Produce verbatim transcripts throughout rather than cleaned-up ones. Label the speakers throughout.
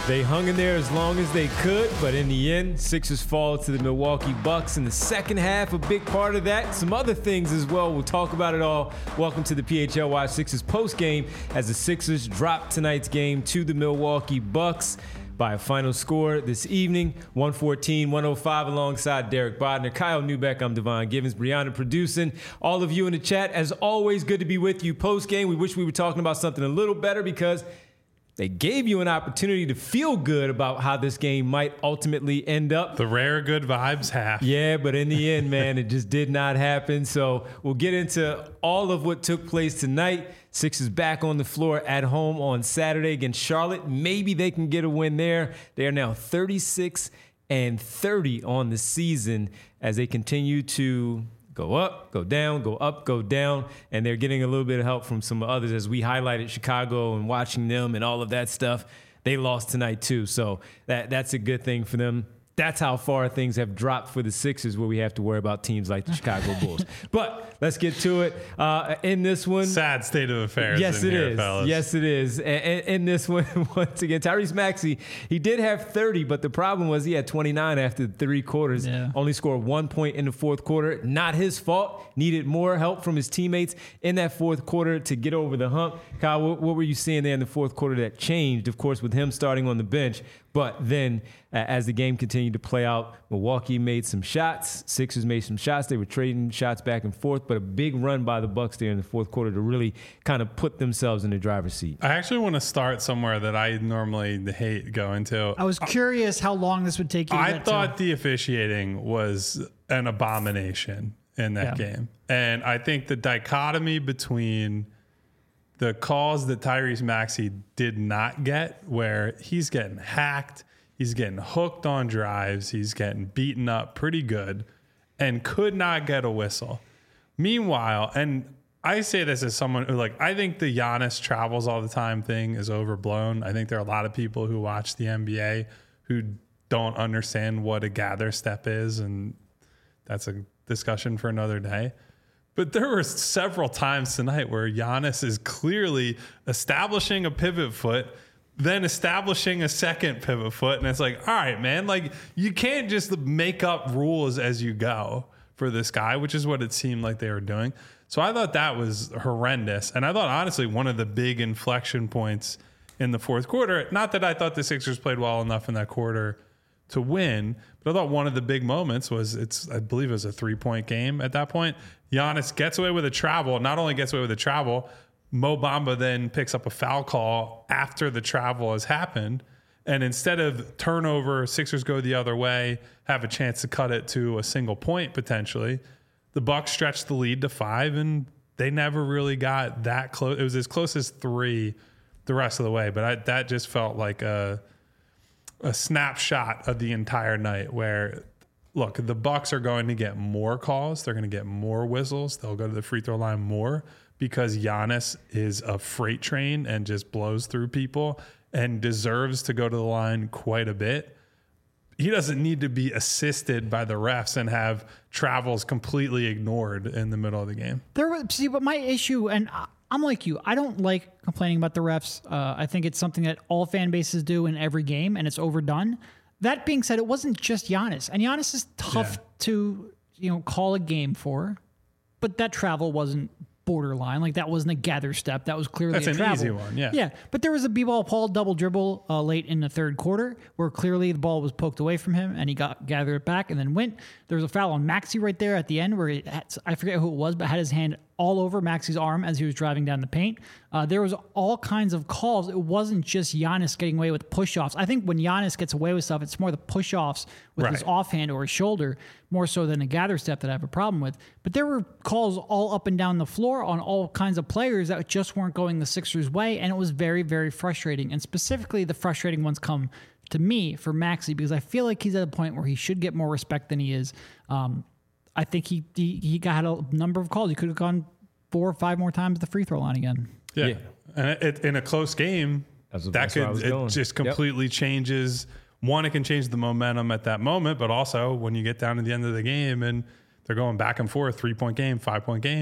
Speaker 1: They hung in there as long as they could, but in the end, Sixers fall to the Milwaukee Bucks in the second half. A big part of that, some other things as well. We'll talk about it all. Welcome to the P H L Y Sixers postgame as the Sixers drop tonight's game to the Milwaukee Bucks by a final score this evening, one fourteen one oh five, alongside Derek Bodner, Kyle Newbeck. I'm Devon Givens, Brianna producing. All of you in the chat, as always, good to be with you post-game. We wish we were talking about something a little better because they gave you an opportunity to feel good about how this game might ultimately end up.
Speaker 2: The rare good vibes half.
Speaker 1: Yeah, but in the end, man, it just did not happen. So we'll get into all of what took place tonight. Sixers back on the floor at home on Saturday against Charlotte. Maybe they can get a win there. They are now thirty-six and thirty on the season as they continue to go up, go down, go up, go down, and they're getting a little bit of help from some others as we highlighted Chicago and watching them and all of that stuff. They lost tonight too, so that that's a good thing for them. That's how far things have dropped for the Sixers, where we have to worry about teams like the Chicago Bulls. But let's get to it. Uh, in this one,
Speaker 2: sad state of affairs.
Speaker 1: Yes,
Speaker 2: in
Speaker 1: it
Speaker 2: here,
Speaker 1: is.
Speaker 2: Fellas.
Speaker 1: Yes, it is. And in this one, once again, Tyrese Maxey, he did have thirty, but the problem was he had twenty-nine after three quarters.
Speaker 3: Yeah.
Speaker 1: Only scored one point in the fourth quarter. Not his fault. Needed more help from his teammates in that fourth quarter to get over the hump. Kyle, what, what were you seeing there in the fourth quarter that changed? Of course, with him starting on the bench. But then uh, as the game continued to play out, Milwaukee made some shots. Sixers made some shots. They were trading shots back and forth, but a big run by the Bucks there in the fourth quarter to really kind of put themselves in the driver's seat.
Speaker 2: I actually want to start somewhere that I normally hate going to.
Speaker 3: I was curious how long this would take you to
Speaker 2: I
Speaker 3: get
Speaker 2: thought
Speaker 3: to.
Speaker 2: the officiating was an abomination in that
Speaker 3: Yeah.
Speaker 2: game. And I think the dichotomy between the calls that Tyrese Maxey did not get, where he's getting hacked, he's getting hooked on drives, he's getting beaten up pretty good, and could not get a whistle. Meanwhile, and I say this as someone who, like, I think the Giannis travels all the time thing is overblown. I think there are a lot of people who watch the N B A who don't understand what a gather step is, and that's a discussion for another day. But there were several times tonight where Giannis is clearly establishing a pivot foot, then establishing a second pivot foot. And it's like, all right, man, like you can't just make up rules as you go for this guy, which is what it seemed like they were doing. So I thought that was horrendous. And I thought, honestly, one of the big inflection points in the fourth quarter, not that I thought the Sixers played well enough in that quarter to win, but I thought one of the big moments was it's, I believe it was a three point game at that point. Giannis gets away with a travel, not only gets away with a travel, Mo Bamba then picks up a foul call after the travel has happened. And instead of turnover, Sixers go the other way, have a chance to cut it to a single point potentially. The Bucks stretched the lead to five, and they never really got that close. It was as close as three the rest of the way, but I, that just felt like a a snapshot of the entire night where, look, the Bucks are going to get more calls. They're going to get more whistles. They'll go to the free throw line more because Giannis is a freight train and just blows through people and deserves to go to the line quite a bit. He doesn't need to be assisted by the refs and have travels completely ignored in the middle of the game.
Speaker 3: There was, see, but my issue, and I'm like you, I don't like complaining about the refs. Uh, I think it's something that all fan bases do in every game, and it's overdone. That being said, it wasn't just Giannis, and Giannis is tough
Speaker 2: Yeah.
Speaker 3: to, you know, call a game for, but that travel wasn't borderline. Like, that wasn't a gather step. That was clearly
Speaker 2: That's
Speaker 3: a
Speaker 2: an
Speaker 3: travel.
Speaker 2: easy one, yeah.
Speaker 3: Yeah, but there was a b-ball Paul double dribble uh, late in the third quarter where clearly the ball was poked away from him and he got gathered it back and then went. There was a foul on Maxey right there at the end where he had, I forget who it was, but had his hand all over Maxey's arm as he was driving down the paint. Uh, there was all kinds of calls. It wasn't just Giannis getting away with push-offs. I think when Giannis gets away with stuff, it's more the push-offs with
Speaker 2: Right.
Speaker 3: his offhand or his shoulder, more so than a gather step that I have a problem with. But there were calls all up and down the floor on all kinds of players that just weren't going the Sixers' way, and it was very, very frustrating. And specifically, the frustrating ones come to me for Maxey because I feel like he's at a point where he should get more respect than he is. Um, I think he, he he got a number of calls. He could have gone four or five more times at the free throw line again.
Speaker 2: Yeah,
Speaker 1: Yeah.
Speaker 2: and it, it, in a close game,
Speaker 1: That's what-
Speaker 2: that
Speaker 1: that's where I
Speaker 2: could
Speaker 1: was
Speaker 2: it
Speaker 1: going.
Speaker 2: just
Speaker 1: Yep.
Speaker 2: completely changes. One, it can change the momentum at that moment, but also when you get down to the end of the game and they're going back and forth, three point game, five point game,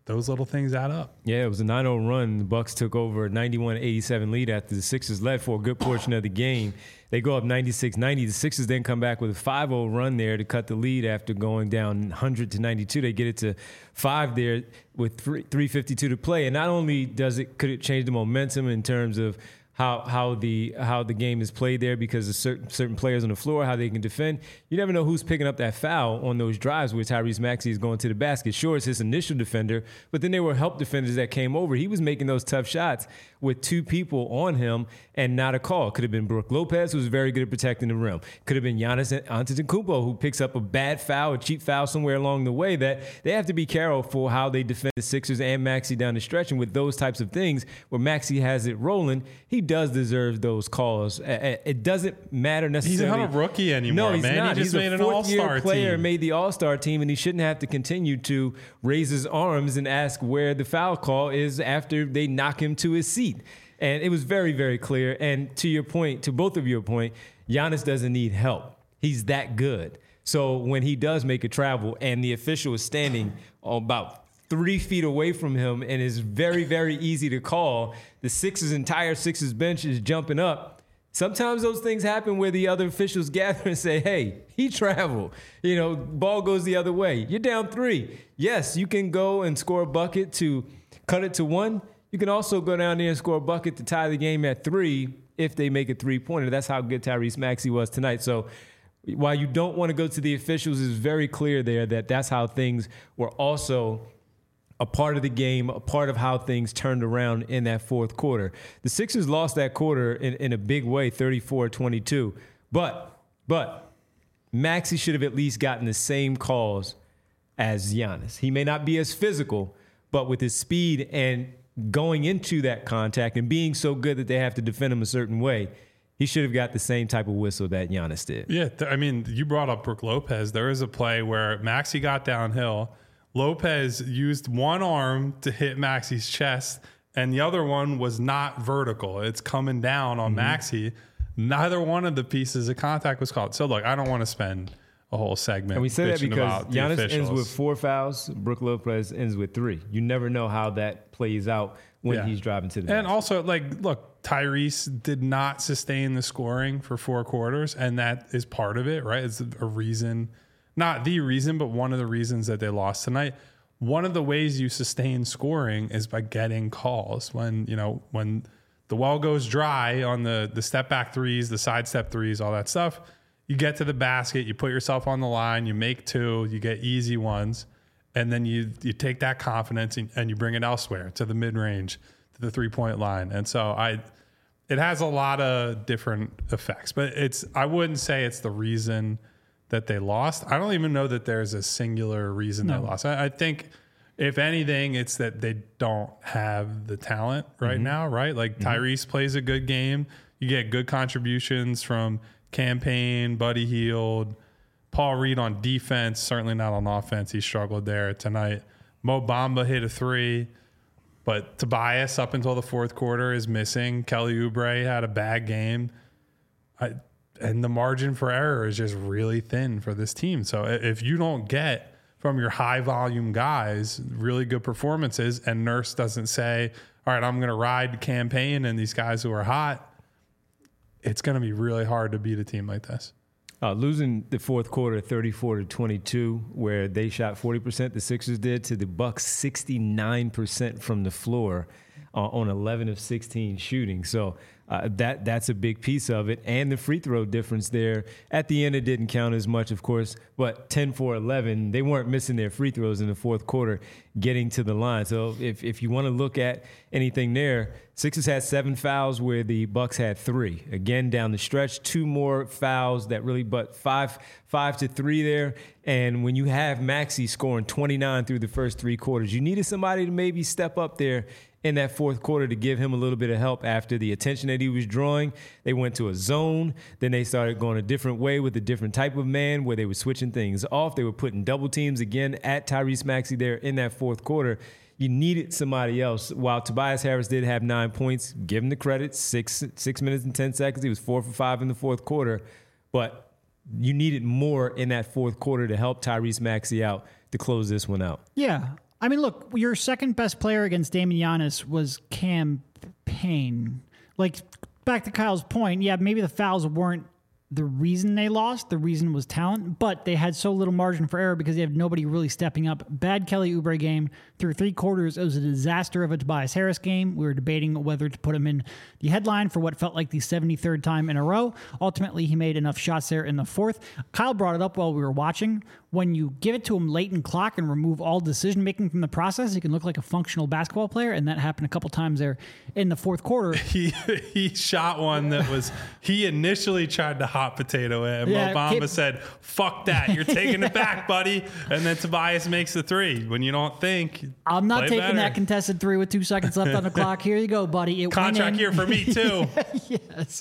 Speaker 2: those little things add up.
Speaker 1: Yeah, it was a nine oh run. The Bucks took over a ninety-one eighty-seven lead after the Sixers led for a good portion of the game. They go up ninety-six ninety. The Sixers then come back with a five oh run there to cut the lead after going down one hundred to ninety-two. They get it to five there with three fifty-two to play. And not only does it could it change the momentum in terms of how how the how the game is played there because of certain certain players on the floor, how they can defend. You never know who's picking up that foul on those drives where Tyrese Maxey is going to the basket. Sure, it's his initial defender, but then there were help defenders that came over. He was making those tough shots with two people on him and not a call. Could have been Brook Lopez, who was very good at protecting the rim. Could have been Giannis Antetokounmpo, who picks up a bad foul, a cheap foul somewhere along the way that they have to be careful how they defend the Sixers and Maxey down the stretch. And with those types of things where Maxey has it rolling, he does deserve those calls. It doesn't matter necessarily.
Speaker 2: He's not a rookie anymore,
Speaker 1: no, he's
Speaker 2: man.
Speaker 1: Not.
Speaker 2: He just
Speaker 1: he's
Speaker 2: made
Speaker 1: a
Speaker 2: an all-star
Speaker 1: player,
Speaker 2: team.
Speaker 1: made the all-star team, and he shouldn't have to continue to raise his arms and ask where the foul call is after they knock him to his seat. And it was very, very clear. And to your point, to both of your point, Giannis doesn't need help. He's that good. So when he does make a travel and the official is standing about three feet away from him and is very, very easy to call, the Sixers entire Sixers bench is jumping up. Sometimes those things happen where the other officials gather and say, hey, he traveled. You know, ball goes the other way. You're down three. Yes, you can go and score a bucket to cut it to one. You can also go down there and score a bucket to tie the game at three if they make a three-pointer. That's how good Tyrese Maxey was tonight. So while you don't want to go to the officials, it's very clear there that that's how things were also a part of the game, a part of how things turned around in that fourth quarter. The Sixers lost that quarter in, in a big way, thirty-four twenty-two. But, but Maxey should have at least gotten the same calls as Giannis. He may not be as physical, but with his speed and going into that contact and being so good that they have to defend him a certain way, he should have got the same type of whistle that Giannis did.
Speaker 2: Yeah, th- I mean, you brought up Brook Lopez. There was a play where Maxey got downhill. Lopez used one arm to hit Maxey's chest, and the other one was not vertical. It's coming down on mm-hmm. Maxey. Neither one of the pieces of contact was called. So, look, I don't want to spend a whole segment.
Speaker 1: And we say that because Giannis
Speaker 2: officials.
Speaker 1: ends with four fouls, Brook Lopez ends with three. You never know how that plays out when
Speaker 2: yeah.
Speaker 1: he's driving to the
Speaker 2: And
Speaker 1: basket.
Speaker 2: also, like, look, Tyrese did not sustain the scoring for four quarters, and that is part of it, right? It's a reason, not the reason, but one of the reasons that they lost tonight. One of the ways you sustain scoring is by getting calls. When, you know, when the well goes dry on the, the step back threes, the side step threes, all that stuff, you get to the basket, you put yourself on the line, you make two, you get easy ones, and then you you take that confidence and, and you bring it elsewhere to the mid-range, to the three-point line. And so I, it has a lot of different effects, but it's I wouldn't say it's the reason that they lost. I don't even know that there's a singular reason no. they lost. I, I think, if anything, it's that they don't have the talent right mm-hmm. now, right? Like mm-hmm. Tyrese plays a good game. You get good contributions from Campaign, Buddy Hield, Paul Reed on defense, certainly not on offense. He struggled there tonight. Mo Bamba hit a three, but Tobias up until the fourth quarter is missing. Kelly Oubre had a bad game. I, and the margin for error is just really thin for this team. So if you don't get from your high volume guys really good performances and Nurse doesn't say, all right, I'm going to ride Campaign and these guys who are hot, it's going to be really hard to beat a team like this.
Speaker 1: Uh, losing the fourth quarter thirty-four to twenty-two, where they shot forty percent, the Sixers did, to the Bucks sixty-nine percent from the floor uh, on eleven of sixteen shooting. So uh, that that's a big piece of it. And the free throw difference there. At the end, it didn't count as much, of course, but ten for eleven, they weren't missing their free throws in the fourth quarter getting to the line. So if, if you want to look at anything there, Sixers had seven fouls where the Bucks had three. Again, down the stretch, two more fouls that really, but five, five to three there. And when you have Maxey scoring twenty-nine through the first three quarters, you needed somebody to maybe step up there in that fourth quarter to give him a little bit of help after the attention that he was drawing. They went to a zone. Then they started going a different way with a different type of man where they were switching things off. They were putting double teams again at Tyrese Maxey there in that fourth quarter. You needed somebody else. While Tobias Harris did have nine points, give him the credit, six six minutes and ten seconds. He was four for five in the fourth quarter. But you needed more in that fourth quarter to help Tyrese Maxey out to close this one out.
Speaker 3: Yeah. I mean, look, your second best player against Damian Giannis was Cam Payne. Like, back to Kyle's point, yeah, maybe the fouls weren't the reason they lost. The reason was talent, but they had so little margin for error because they have nobody really stepping up. Bad Kelly Oubre game. Through three quarters, it was a disaster of a Tobias Harris game. We were debating whether to put him in the headline for what felt like the seventy-third time in a row. Ultimately, he made enough shots there in the fourth. Kyle brought it up while we were watching. When you give it to him late in clock and remove all decision-making from the process, he can look like a functional basketball player, and that happened a couple times there in the fourth quarter.
Speaker 2: He he shot one that was, he initially tried to hot potato it, and
Speaker 3: Yeah,
Speaker 2: Obama
Speaker 3: Kip-
Speaker 2: said, fuck that, you're taking
Speaker 3: Yeah.
Speaker 2: it back, buddy. And then Tobias makes the three. When you don't think,
Speaker 3: I'm not
Speaker 2: play
Speaker 3: taking
Speaker 2: better.
Speaker 3: that contested three with two seconds left on the clock. Here you go, buddy. It went
Speaker 2: Contract
Speaker 3: in.
Speaker 2: here for me, too.
Speaker 3: Yes.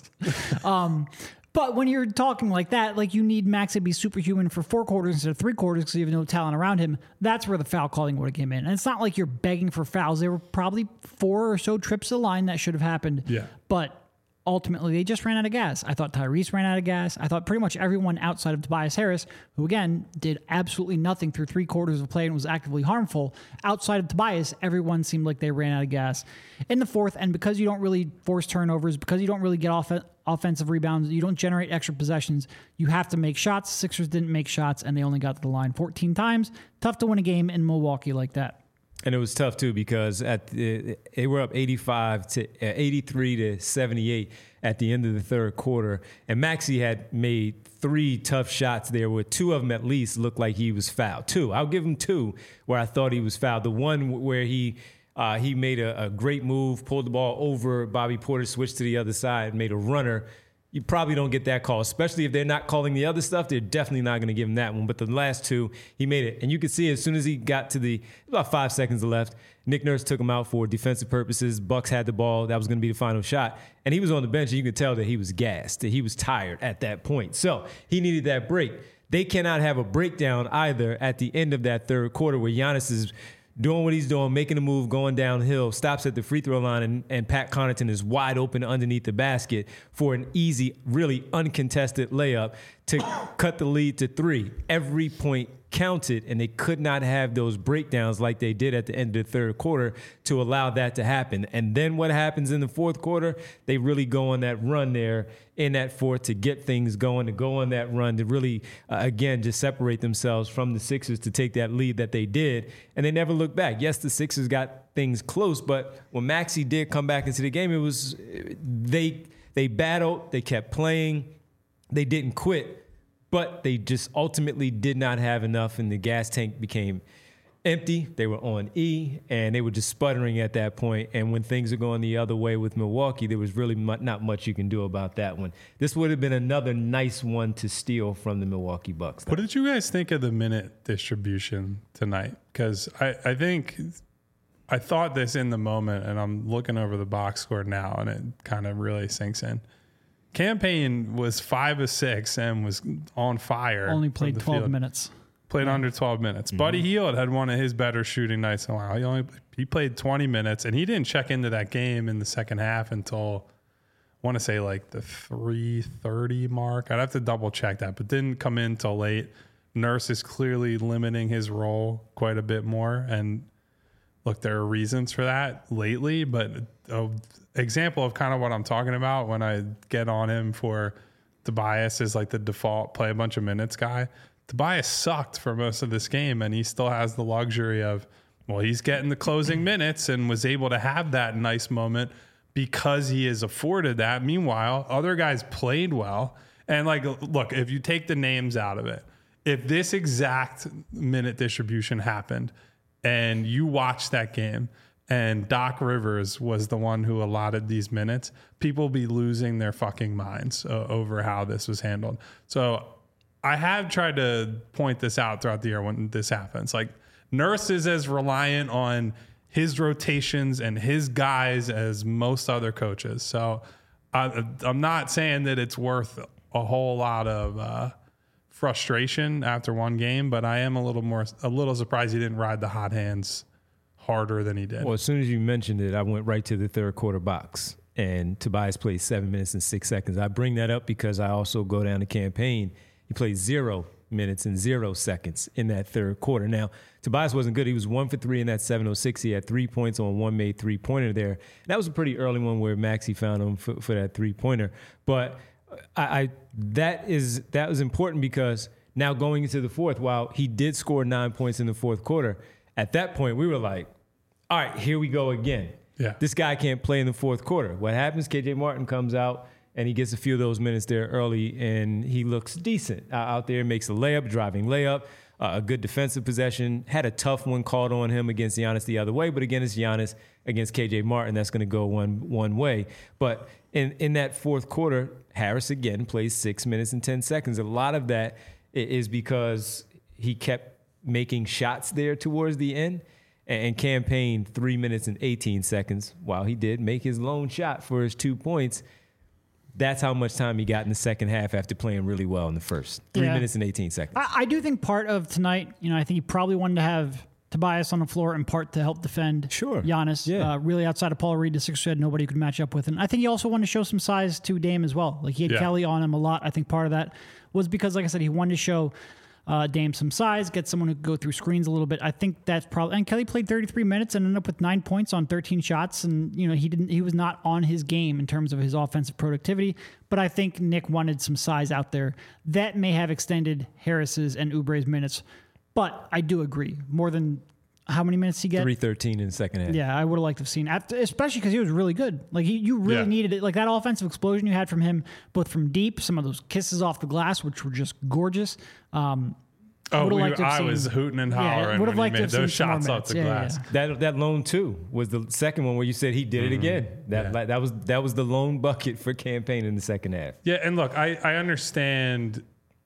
Speaker 3: Um, but when you're talking like that, like you need Max to be superhuman for four quarters instead of three quarters because you have no talent around him. That's where the foul calling would have came in. And it's not like you're begging for fouls. There were probably four or so trips to the line that should have happened.
Speaker 2: Yeah.
Speaker 3: But ultimately, they just ran out of gas. I thought Tyrese ran out of gas. I thought pretty much everyone outside of Tobias Harris, who again did absolutely nothing through three quarters of play and was actively harmful, outside of Tobias, everyone seemed like they ran out of gas in the fourth. And because you don't really force turnovers, because you don't really get off offensive rebounds, you don't generate extra possessions, you have to make shots. Sixers didn't make shots, and they only got to the line fourteen times. Tough to win a game in Milwaukee like that.
Speaker 1: And it was tough too because at the, they were up eighty-five to eighty-three to seventy-eight at the end of the third quarter, and Maxey had made three tough shots there, where two of them at least looked like he was fouled. Two, I'll give him two where I thought he was fouled. The one where he uh, he made a, a great move, pulled the ball over Bobby Porter, switched to the other side, made a runner. You probably don't get that call, especially if they're not calling the other stuff. They're definitely not going to give him that one. But the last two, he made it. And you could see as soon as he got to the, about five seconds left, Nick Nurse took him out for defensive purposes. Bucks had the ball. That was going to be the final shot. And he was on the bench, and you could tell that he was gassed, that he was tired at that point. So he needed that break. They cannot have a breakdown either at the end of that third quarter where Giannis is doing what he's doing, making a move, going downhill, stops at the free throw line, and, and Pat Connaughton is wide open underneath the basket for an easy, really uncontested layup to cut the lead to three. Every point counted, and they could not have those breakdowns like they did at the end of the third quarter to allow that to happen. And then what happens in the fourth quarter? They really go on that run there in that fourth to get things going, to go on that run, to really, uh, again, just separate themselves from the Sixers to take that lead that they did. And they never looked back. Yes, the Sixers got things close, but when Maxey did come back into the game, it was they they battled, they kept playing, they didn't quit. But they just ultimately did not have enough, and the gas tank became empty. They were on E, and they were just sputtering at that point. And when things are going the other way with Milwaukee, there was really mu- not much you can do about that one. This would have been another nice one to steal from the Milwaukee Bucks.
Speaker 2: What did you guys think of the minute distribution tonight? Because I, I think I thought this in the moment, and I'm looking over the box score now, and it kind of really sinks in. Cam Payne was five of six and was on fire.
Speaker 3: Only
Speaker 2: from
Speaker 3: played
Speaker 2: the
Speaker 3: twelve
Speaker 2: field.
Speaker 3: minutes.
Speaker 2: Played under twelve minutes. Mm-hmm. Buddy Hield had one of his better shooting nights in a while. He only he played twenty minutes, and he didn't check into that game in the second half until I want to say like the three thirty mark. I'd have to double check that, but didn't come in till late. Nurse is clearly limiting his role quite a bit more, and look, there are reasons for that lately, but an example of kind of what I'm talking about when I get on him for Tobias is like the default play a bunch of minutes guy. Tobias sucked for most of this game, and he still has the luxury of, well, he's getting the closing minutes and was able to have that nice moment because he is afforded that. Meanwhile, other guys played well. And like, look, if you take the names out of it, if this exact minute distribution happened and you watched that game and Doc Rivers was the one who allotted these minutes, people be losing their fucking minds uh, over how this was handled. So I have tried to point this out throughout the year when this happens. Like, Nurse is as reliant on his rotations and his guys as most other coaches. So I, I'm not saying that it's worth a whole lot of uh, frustration after one game, but I am a little more, a little surprised he didn't ride the hot hands harder than he did.
Speaker 1: Well, as soon as you mentioned it, I went right to the third quarter box, and Tobias played seven minutes and six seconds. I bring that up because I also go down the campaign. He played zero minutes and zero seconds in that third quarter. Now, Tobias wasn't good. He was one for three in that seven oh six. He had three points on one made three-pointer there. That was a pretty early one where Maxey found him for, for that three-pointer. But I, I that is that was important because now going into the fourth, while he did score nine points in the fourth quarter, at that point we were like, all right, here we go again.
Speaker 2: Yeah.
Speaker 1: This guy can't play in the fourth quarter. What happens, K J Martin comes out, and he gets a few of those minutes there early, and he looks decent uh, out there, makes a layup, driving layup, uh, a good defensive possession. Had a tough one called on him against Giannis the other way, but again, it's Giannis against K J Martin. That's going to go one one way. But in, in that fourth quarter, Harris again plays six minutes and ten seconds. A lot of that is because he kept making shots there towards the end and campaigned three minutes and eighteen seconds while he did make his lone shot for his two points. That's how much time he got in the second half after playing really well in the first. Three
Speaker 3: Yeah.
Speaker 1: minutes and eighteen seconds.
Speaker 3: I, I do think part of tonight, you know, I think he probably wanted to have Tobias on the floor in part to help defend
Speaker 1: Sure.
Speaker 3: Giannis.
Speaker 1: Yeah.
Speaker 3: Uh, really outside of Paul Reed, the Sixers had nobody who could match up with. And I think he also wanted to show some size to Dame as well. Like he had
Speaker 2: Yeah.
Speaker 3: Kelly on him a lot. I think part of that was because, like I said, he wanted to show uh, Dame some size, get someone who could go through screens a little bit. I think that's probably, and Kelly played thirty-three minutes and ended up with nine points on thirteen shots. And, you know, he didn't, he was not on his game in terms of his offensive productivity. But I think Nick wanted some size out there that may have extended Harris's and Oubre's minutes. But I do agree, more than how many minutes he get?
Speaker 1: three thirteen in the second half.
Speaker 3: Yeah, I would have liked to have seen, after, especially because he was really good. Like he, you really
Speaker 2: Yeah.
Speaker 3: needed it. Like that offensive explosion you had from him, both from deep, some of those kisses off the glass, which were just gorgeous. Um,
Speaker 2: Oh,
Speaker 3: would've
Speaker 2: we,
Speaker 3: liked to have
Speaker 2: I
Speaker 3: seen-
Speaker 2: was hooting and
Speaker 3: Yeah,
Speaker 2: hollering
Speaker 3: would've
Speaker 2: when
Speaker 3: liked
Speaker 2: he
Speaker 3: to
Speaker 2: made
Speaker 3: have
Speaker 2: those
Speaker 3: seen some more
Speaker 2: shots off
Speaker 3: minutes.
Speaker 2: the
Speaker 3: Yeah, yeah,
Speaker 2: glass.
Speaker 3: yeah.
Speaker 1: That that lone two was the second one where you said he did it again. That
Speaker 2: Yeah.
Speaker 1: like, that was that was the lone bucket for campaign in the second half.
Speaker 2: Yeah, and look, I, I understand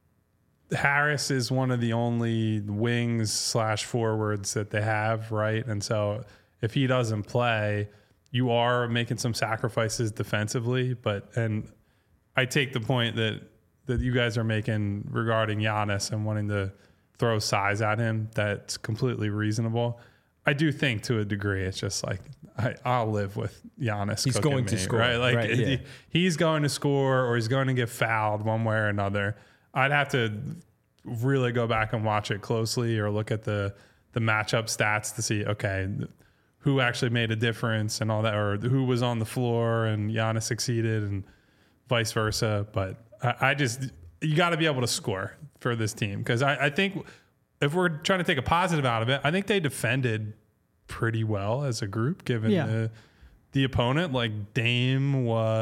Speaker 2: Harris is one of the only wings slash forwards that they have, right? And so if he doesn't play, you are making some sacrifices defensively. But and I take the point that that you guys are making regarding Giannis and wanting to throw size at him. That's completely reasonable. I do think to a degree, it's just like I, I'll live with Giannis.
Speaker 1: He's
Speaker 2: cooking
Speaker 1: going to
Speaker 2: me,
Speaker 1: score,
Speaker 2: right? Like
Speaker 1: right, yeah.
Speaker 2: he- he's going to score or he's going to get fouled one way or another. I'd have to really go back and watch it closely or look at the the matchup stats to see, okay, who actually made a difference and all that, or who was on the floor and Giannis succeeded and vice versa. But I, I just, you got to be able to score for this team. Because I, I think if we're trying to take a positive out of it, I think they defended pretty well as a group, given
Speaker 3: Yeah.
Speaker 2: the, the opponent. Like Dame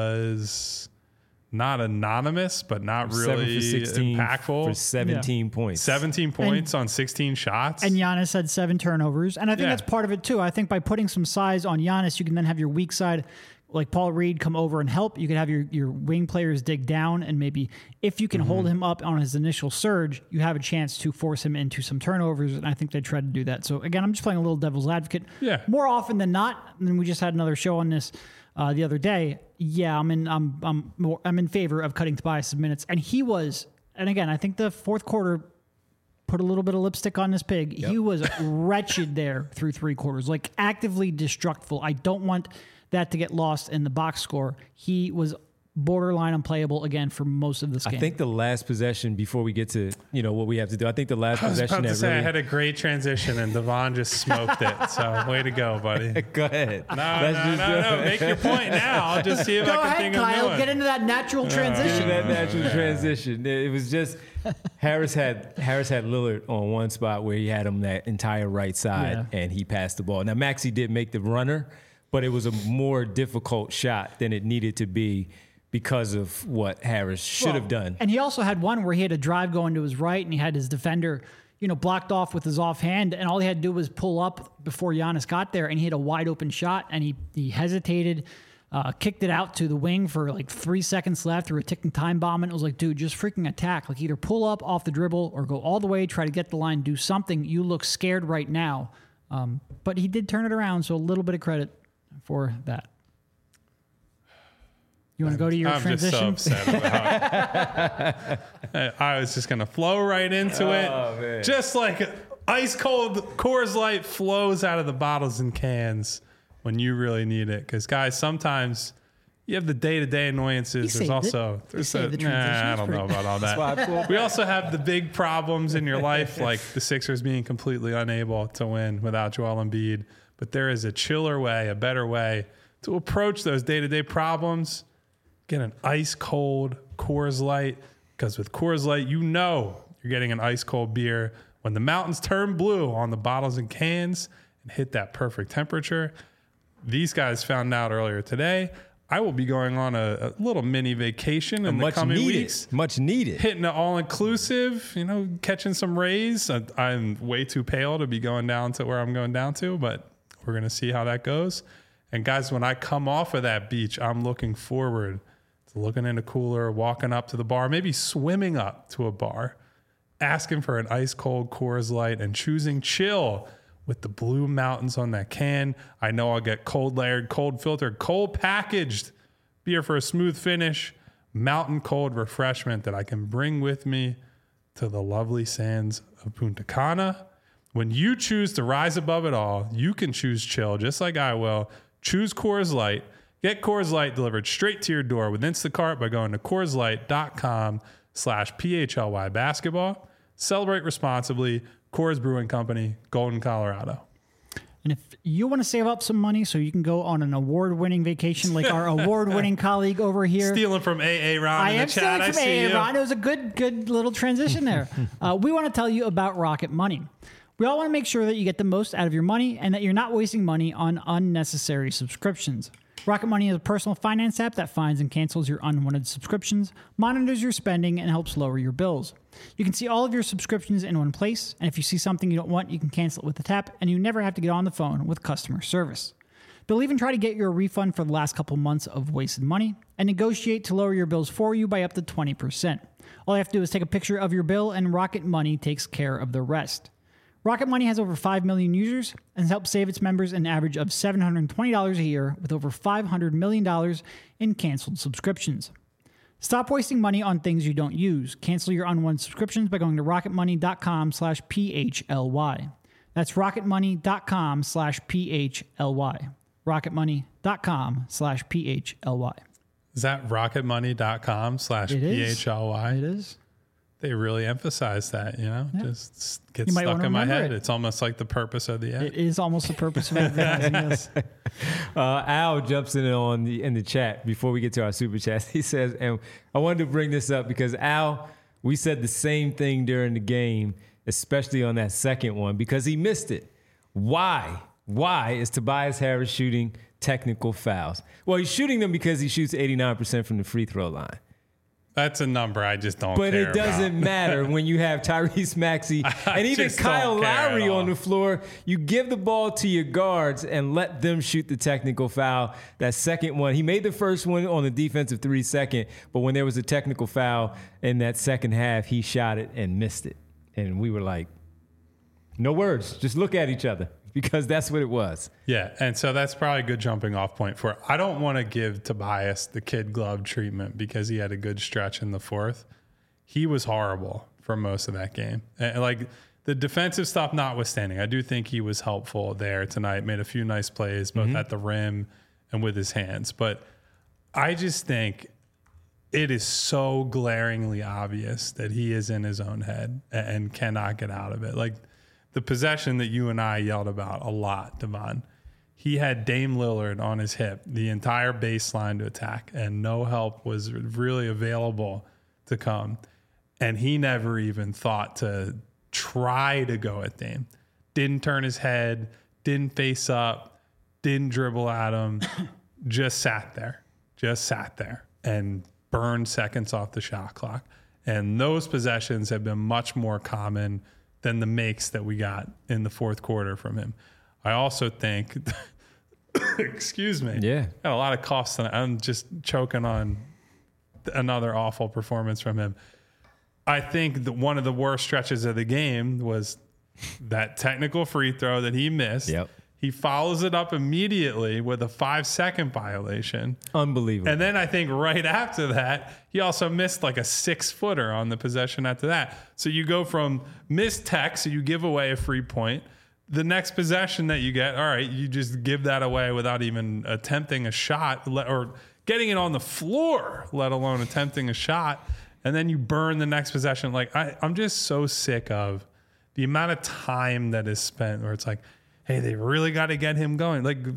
Speaker 2: was not anonymous, but not
Speaker 1: Seven
Speaker 2: really
Speaker 1: for sixteen
Speaker 2: impactful.
Speaker 1: for seventeen points.
Speaker 2: seventeen points on sixteen shots.
Speaker 3: And Giannis had seven turnovers. And I think
Speaker 2: Yeah.
Speaker 3: that's part of it too. I think by putting some size on Giannis, you can then have your weak side, like Paul Reed, come over and help. You could have your, your wing players dig down. And maybe if you can
Speaker 2: Mm-hmm.
Speaker 3: hold him up on his initial surge, you have a chance to force him into some turnovers. And I think they tried to do that. So again, I'm just playing a little devil's advocate.
Speaker 2: Yeah.
Speaker 3: More often than not, and we just had another show on this uh, the other day. Yeah, I'm in. I'm. I'm. More, I'm in favor of cutting Tobias' minutes, and he was. And again, I think the fourth quarter put a little bit of lipstick on this pig. He was wretched there through three quarters, like actively destructful. I don't want that to get lost in the box score. He was borderline unplayable again for most of this game.
Speaker 1: I think the last possession before we get to you know what we have to do. I think the last
Speaker 2: I was
Speaker 1: possession
Speaker 2: about to
Speaker 1: that
Speaker 2: say
Speaker 1: really
Speaker 2: I had a great transition and Devon just smoked it. So way to go, buddy. No,
Speaker 1: go ahead.
Speaker 2: no,
Speaker 1: Let's
Speaker 2: no,
Speaker 1: just-
Speaker 2: no. Make your point now. I'll just see if
Speaker 3: Go
Speaker 2: I can
Speaker 3: ahead,
Speaker 2: think
Speaker 3: Kyle.
Speaker 2: of new
Speaker 3: Get
Speaker 2: one.
Speaker 3: into that natural
Speaker 1: In
Speaker 3: transition.
Speaker 1: that natural transition. It was just Harris had Harris had Lillard on one spot where he had him that entire right side
Speaker 3: Yeah.
Speaker 1: and he passed the ball. Now Maxey did make the runner, but it was a more difficult shot than it needed to be because of what Harris should have
Speaker 3: Well,
Speaker 1: done.
Speaker 3: And he also had one where he had a drive going to his right, and he had his defender, you know, blocked off with his offhand, and all he had to do was pull up before Giannis got there, and he had a wide open shot, and he he hesitated, uh, kicked it out to the wing for like three seconds left through a ticking time bomb, and it was like, dude, just freaking attack. Like either pull up off the dribble or go all the way, try to get the line, do something. You look scared right now. Um, but he did turn it around, so a little bit of credit for that. You want to go to your
Speaker 2: I'm
Speaker 3: transition?
Speaker 2: just so upset about it. I was just going to flow right into
Speaker 1: Oh,
Speaker 2: it.
Speaker 1: man.
Speaker 2: Just like ice cold Coors Light flows out of the bottles and cans when you really need it. Because, guys, sometimes you have the day-to-day annoyances.
Speaker 3: He
Speaker 2: There's
Speaker 3: saved
Speaker 2: also
Speaker 3: it.
Speaker 2: there's
Speaker 3: He
Speaker 2: a,
Speaker 3: saved the
Speaker 2: nah,
Speaker 3: transition.
Speaker 2: I
Speaker 3: It's
Speaker 2: don't know
Speaker 3: pretty-
Speaker 2: about all
Speaker 1: That's why I
Speaker 2: that.
Speaker 1: pulled
Speaker 2: We also have the big problems in your life, like the Sixers being completely unable to win without Joel Embiid. But there is a chiller way, a better way to approach those day-to-day problems. Get an ice-cold Coors Light, because with Coors Light, you know you're getting an ice-cold beer when the mountains turn blue on the bottles and cans and hit that perfect temperature. These guys found out earlier today. I will be going on a, a little mini vacation in the
Speaker 1: much
Speaker 2: coming
Speaker 1: needed,
Speaker 2: weeks.
Speaker 1: much needed.
Speaker 2: Hitting an all-inclusive, you know, catching some rays. I, I'm way too pale to be going down to where I'm going down to, but we're going to see how that goes. And guys, when I come off of that beach, I'm looking forward to looking in a cooler, walking up to the bar, maybe swimming up to a bar, asking for an ice-cold Coors Light and choosing chill with the blue mountains on that can. I know I'll get cold layered, cold filtered, cold packaged beer for a smooth finish, mountain cold refreshment that I can bring with me to the lovely sands of Punta Cana. When you choose to rise above it all, you can choose chill just like I will. Choose Coors Light. Get Coors Light delivered straight to your door with Instacart by going to CoorsLight.com slash PHLY basketball. Celebrate responsibly. Coors Brewing Company, Golden, Colorado.
Speaker 3: And if you want to save up some money so you can go on an award-winning vacation like our award-winning colleague over here.
Speaker 2: Stealing from A A Ron
Speaker 3: I
Speaker 2: in the
Speaker 3: am
Speaker 2: chat.
Speaker 3: stealing
Speaker 2: I
Speaker 3: from
Speaker 2: see
Speaker 3: A A
Speaker 2: you.
Speaker 3: Ron. It was a good, good little transition there. uh, we want to tell you about Rocket Money. We all want to make sure that you get the most out of your money and that you're not wasting money on unnecessary subscriptions. Rocket Money is a personal finance app that finds and cancels your unwanted subscriptions, monitors your spending, and helps lower your bills. You can see all of your subscriptions in one place, and if you see something you don't want, you can cancel it with a tap, and you never have to get on the phone with customer service. They'll even try to get you a refund for the last couple months of wasted money and negotiate to lower your bills for you by up to twenty percent. All you have to do is take a picture of your bill, and Rocket Money takes care of the rest. Rocket Money has over five million users and has helped save its members an average of seven hundred twenty dollars a year with over five hundred million dollars in canceled subscriptions. Stop wasting money on things you don't use. Cancel your unwanted subscriptions by going to rocketmoney.com slash PHLY. That's rocketmoney.com slash PHLY. rocketmoney.com slash PHLY.
Speaker 2: Is that rocketmoney.com slash
Speaker 3: It is.
Speaker 2: PHLY?
Speaker 3: It is.
Speaker 2: They really emphasize that, you know,
Speaker 3: Yeah.
Speaker 2: just gets
Speaker 3: You might
Speaker 2: stuck
Speaker 3: wanna
Speaker 2: in my
Speaker 3: remember
Speaker 2: head.
Speaker 3: it.
Speaker 2: It's almost like the purpose of the app.
Speaker 3: It is almost the purpose of advertising this.
Speaker 1: Uh, Al jumps in on the in the chat before we get to our super chats. He says, and I wanted to bring this up because Al, we said the same thing during the game, especially on that second one, because he missed it. Why? Why is Tobias Harris shooting technical fouls? Well, he's shooting them because he shoots eighty-nine percent from the free throw line.
Speaker 2: That's a number I just don't
Speaker 1: But
Speaker 2: care
Speaker 1: it doesn't
Speaker 2: about.
Speaker 1: matter when you have Tyrese Maxey
Speaker 2: I
Speaker 1: and even
Speaker 2: just
Speaker 1: Kyle
Speaker 2: don't care at
Speaker 1: Lowry
Speaker 2: all.
Speaker 1: on the floor. You give the ball to your guards and let them shoot the technical foul. That second one, he made the first one on the defensive three second, but when there was a technical foul in that second half, he shot it and missed it. And we were like, no words, just look at each other because that's what it was.
Speaker 2: Yeah, and so that's probably a good jumping off point for it. I don't want to give Tobias the kid glove treatment because he had a good stretch in the fourth. He was horrible for most of that game. And like the defensive stuff notwithstanding, I do think he was helpful there tonight, made a few nice plays, both
Speaker 1: Mm-hmm.
Speaker 2: at the rim and with his hands. But I just think it is so glaringly obvious that he is in his own head and cannot get out of it. Like the possession that you and I yelled about a lot, Devon, he had Dame Lillard on his hip the entire baseline to attack, and no help was really available to come. And he never even thought to try to go at Dame. Didn't turn his head, didn't face up, didn't dribble at him, just sat there, just sat there and burned seconds off the shot clock. And those possessions have been much more common than the makes that we got in the fourth quarter from him. I also think, excuse me,
Speaker 1: Yeah.
Speaker 2: got a lot of coughs tonight. I'm just choking on another awful performance from him. I think that one of the worst stretches of the game was that technical free throw that he missed.
Speaker 1: Yep.
Speaker 2: He follows it up immediately with a five second violation.
Speaker 1: Unbelievable.
Speaker 2: And then I think right after that, he also missed like a six footer on the possession after that. So you go from missed tech, so you give away a free point. The next possession that you get, all right, you just give that away without even attempting a shot le- or getting it on the floor, let alone attempting a shot. And then you burn the next possession. Like I, I'm just so sick of the amount of time that is spent where it's like, hey, they really got to get him going. Like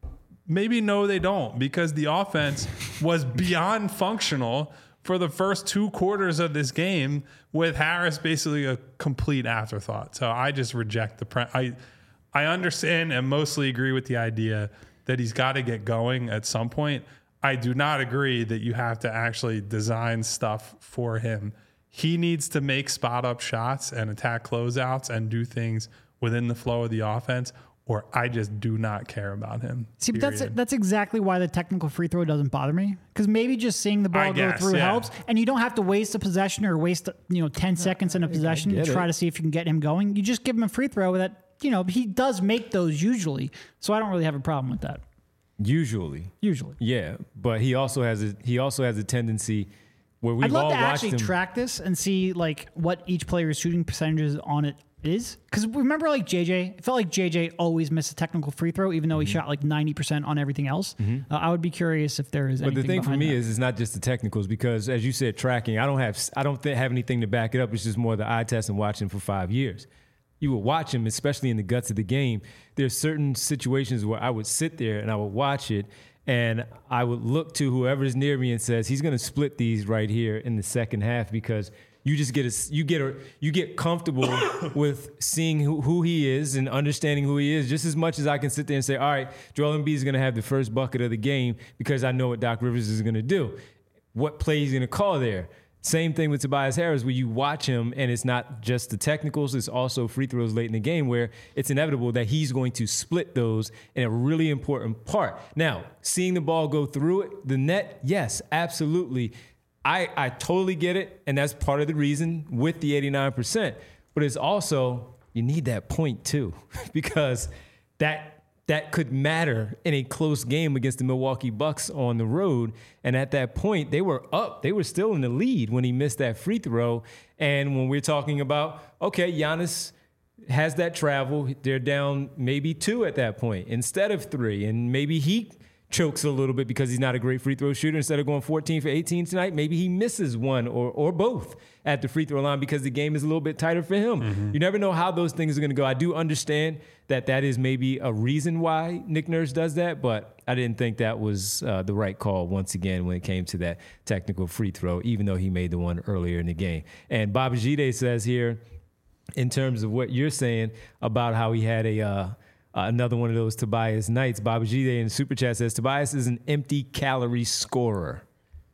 Speaker 2: maybe no, they don't, because the offense was beyond functional for the first two quarters of this game with Harris basically a complete afterthought. So I just reject the pre- I I understand and mostly agree with the idea that he's got to get going at some point. I do not agree that you have to actually design stuff for him. He needs to make spot up shots and attack closeouts and do things within the flow of the offense, or I just do not care about him.
Speaker 3: See, but that's that's exactly why the technical free throw doesn't bother me. Because maybe just seeing the ball
Speaker 2: I
Speaker 3: go
Speaker 2: guess,
Speaker 3: through
Speaker 2: yeah.
Speaker 3: helps, and you don't have to waste a possession or waste you know ten seconds in a possession to
Speaker 1: get
Speaker 3: try
Speaker 1: it.
Speaker 3: to see if you can get him going. You just give him a free throw that you know he does make those usually, so I don't really have a problem with that.
Speaker 1: Usually,
Speaker 3: Usually,
Speaker 1: yeah, but he also has a he also has a tendency where we've
Speaker 3: I'd love
Speaker 1: all
Speaker 3: to
Speaker 1: watched
Speaker 3: actually
Speaker 1: him.
Speaker 3: track this and see like what each player's shooting percentages on it is. Because remember, like J J, it felt like J J always missed a technical free throw, even though he
Speaker 1: Mm-hmm.
Speaker 3: shot like ninety percent on everything else. Uh, I would be curious if there is.
Speaker 1: But the
Speaker 3: anything
Speaker 1: thing for
Speaker 3: behind
Speaker 1: me
Speaker 3: that.
Speaker 1: is, it's not just the technicals, because as you said, tracking. I don't have I don't th- have anything to back it up. It's just more the eye test and watching for five years. You would watch him, especially in the guts of the game. There's certain situations where I would sit there and I would watch it, and I would look to whoever's near me and says he's going to split these right here in the second half, because you just get a you get a you get comfortable with seeing who, who he is and understanding who he is just as much as I can sit there and say, all right, Joel Embiid is going to have the first bucket of the game because I know what Doc Rivers is going to do, what play he's going to call there. Same thing with Tobias Harris, where you watch him and it's not just the technicals, it's also free throws late in the game where it's inevitable that he's going to split those in a really important part. Now, seeing the ball go through it, the net, yes, absolutely. I, I totally get it, and that's part of the reason with the eighty-nine percent. But it's also, you need that point too, because that that could matter in a close game against the Milwaukee Bucks on the road. And at that point, they were up. They were still in the lead when he missed that free throw. And when we're talking about, okay, Giannis has that travel, they're down maybe two at that point instead of three. And maybe he chokes a little bit because he's not a great free throw shooter. Instead of going fourteen for eighteen tonight, maybe he misses one or or both at the free throw line because the game is a little bit tighter for him. Mm-hmm. You never know how those things are going to go. I do understand that that is maybe a reason why Nick Nurse does that, but I didn't think that was uh, the right call once again when it came to that technical free throw, even though he made the one earlier in the game. And Babajide says here, in terms of what you're saying about how he had a uh, Uh, another one of those Tobias nights. Babajide in the Super Chat says, Tobias is an empty calorie scorer.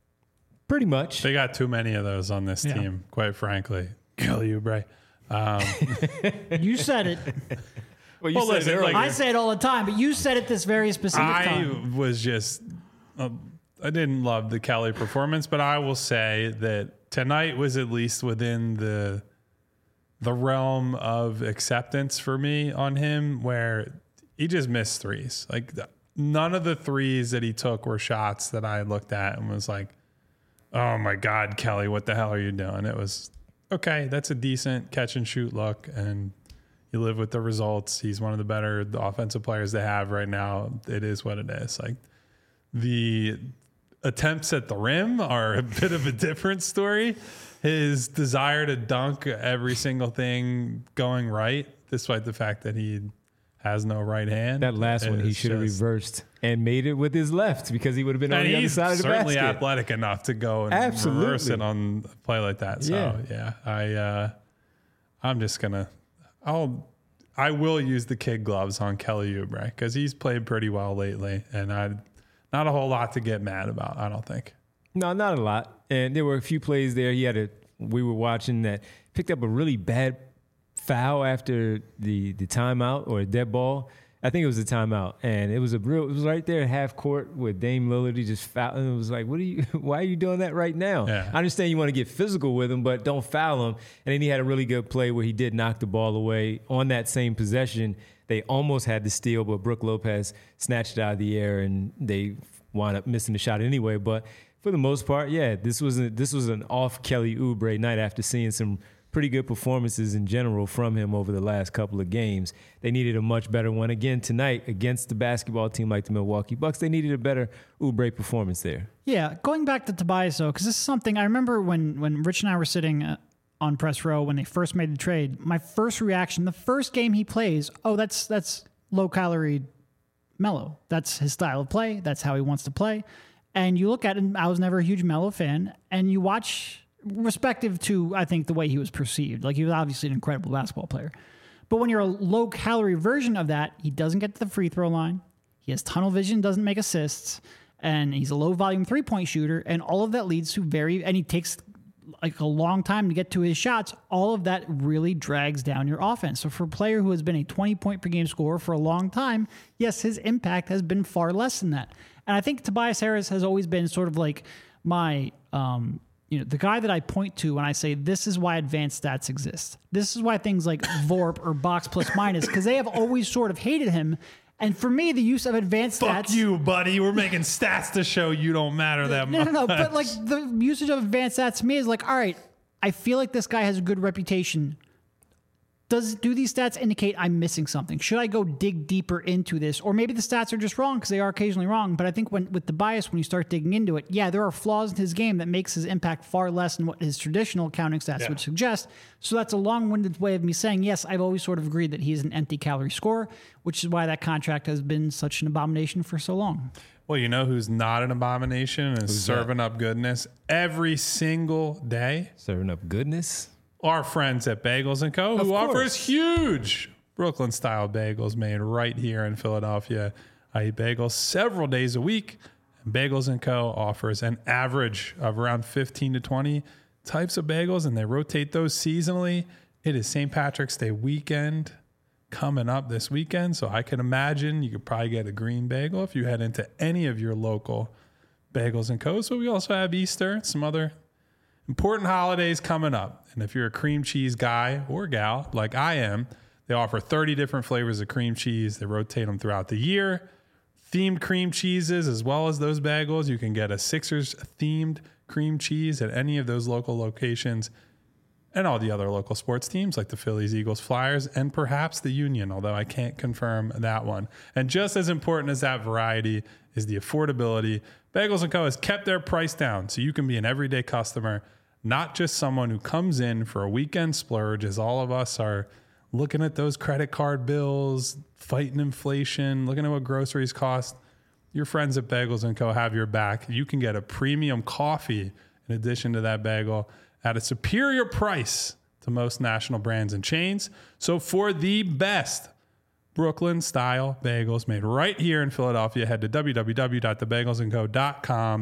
Speaker 1: Pretty much.
Speaker 2: They got too many of those on this
Speaker 3: Yeah.
Speaker 2: team, quite frankly. Kelly Oubre. Um,
Speaker 3: You said it.
Speaker 1: Well, you
Speaker 2: Well,
Speaker 1: said
Speaker 2: listen,
Speaker 1: it earlier.
Speaker 2: like-
Speaker 3: I say it all the time, but you said it this very specific
Speaker 2: I
Speaker 3: time.
Speaker 2: was just, uh, I didn't love the Kelly performance, but I will say that tonight was at least within the the realm of acceptance for me on him, where he just missed threes. Like the, none of the threes that he took were shots that I looked at and was like, oh my God, Kelly, what the hell are you doing? It was, okay, that's a decent catch and shoot look, and you live with the results. He's one of the better offensive players they have right now. It is what it is. Like the attempts at the rim are a bit of a different story. His desire to dunk every single thing going right, despite the fact that he has no right hand.
Speaker 1: that last one he
Speaker 2: is
Speaker 1: should have
Speaker 2: just-
Speaker 1: reversed and made it with his left, because he would have been on
Speaker 2: And
Speaker 1: the other
Speaker 2: he's
Speaker 1: side of the
Speaker 2: certainly
Speaker 1: basket.
Speaker 2: athletic enough to go and
Speaker 1: Absolutely.
Speaker 2: reverse it on a play like that. So
Speaker 1: Yeah.
Speaker 2: yeah, I uh, I'm just gonna I'll I will use the kid gloves on Kelly Oubre because he's played pretty well lately, and I not a whole lot to get mad about. I don't think.
Speaker 1: No, not a lot. And there were a few plays there. He had a we were watching that picked up a really bad foul after the the timeout or a dead ball. I think it was a timeout, and it was a real. It was right there at half court with Dame Lillard. He just fouled, and it was like, "What are you? Why are you doing that right now?"
Speaker 2: Yeah.
Speaker 1: I understand you want to get physical with him, but don't foul him. And then he had a really good play where he did knock the ball away on that same possession. They almost had the steal, but Brook Lopez snatched it out of the air, and they wound up missing the shot anyway. But for the most part, yeah, this was a, this was an off Kelly Oubre night after seeing some pretty good performances in general from him over the last couple of games. They needed a much better one again tonight against the basketball team like the Milwaukee Bucks. They needed a better Oubre performance there.
Speaker 3: Yeah, going back to Tobias, though, because this is something I remember when, when Rich and I were sitting uh, on press row when they first made the trade, my first reaction, the first game he plays, oh, that's that's low-calorie Melo. That's his style of play. That's how he wants to play. And you look at him, I was never a huge Melo fan, and you watch, respective to, I think, the way he was perceived. Like, he was obviously an incredible basketball player. But when you're a low-calorie version of that, he doesn't get to the free throw line. He has tunnel vision, doesn't make assists, and he's a low-volume three-point shooter, and all of that leads to very, and he takes like a long time to get to his shots. All of that really drags down your offense. So for a player who has been a twenty point per game scorer for a long time, yes, his impact has been far less than that. And I think Tobias Harris has always been sort of like my, um, you know, the guy that I point to when I say this is why advanced stats exist. This is why things like V O R P or box plus minus, because they have always sort of hated him. And for me, the use of advanced
Speaker 2: Fuck
Speaker 3: stats...
Speaker 2: you, buddy. We're making stats to show you don't matter that
Speaker 3: no,
Speaker 2: much.
Speaker 3: No, no, no. But like the usage of advanced stats to me is like, all right, I feel like this guy has a good reputation. Does do these stats indicate I'm missing something? Should I go dig deeper into this? Or maybe the stats are just wrong because they are occasionally wrong. But I think when with the bias, when you start digging into it, yeah, there are flaws in his game that makes his impact far less than what his traditional counting stats
Speaker 2: Yeah.
Speaker 3: would suggest. So that's a long-winded way of me saying, yes, I've always sort of agreed that he's an empty calorie scorer, which is why that contract has been such an abomination for so long.
Speaker 2: Well, you know who's not an abomination and is
Speaker 1: Who's
Speaker 2: serving
Speaker 1: that?
Speaker 2: up goodness every single day?
Speaker 1: Serving up goodness.
Speaker 2: Our friends at Bagels and Co.,
Speaker 1: Of
Speaker 2: who
Speaker 1: course.
Speaker 2: offers huge Brooklyn-style bagels made right here in Philadelphia. I eat bagels several days a week. And Bagels and Co. offers an average of around fifteen to twenty types of bagels, and they rotate those seasonally. It is Saint Patrick's Day weekend coming up this weekend, so I can imagine you could probably get a green bagel if you head into any of your local Bagels and Co. So we also have Easter and some other important holidays coming up. And if you're a cream cheese guy or gal like I am, they offer thirty different flavors of cream cheese. They rotate them throughout the year. Themed cream cheeses as well as those bagels. You can get a Sixers themed cream cheese at any of those local locations and all the other local sports teams like the Phillies, Eagles, Flyers, and perhaps the Union, although I can't confirm that one. And just as important as that variety is the affordability. Bagels and Co. has kept their price down so you can be an everyday customer, not just someone who comes in for a weekend splurge, as all of us are looking at those credit card bills, fighting inflation, looking at what groceries cost. Your friends at Bagels and Co. have your back. You can get a premium coffee in addition to that bagel at a superior price to most national brands and chains. So for the best Brooklyn-style bagels made right here in Philadelphia, head to w w w dot the bagels and co dot com.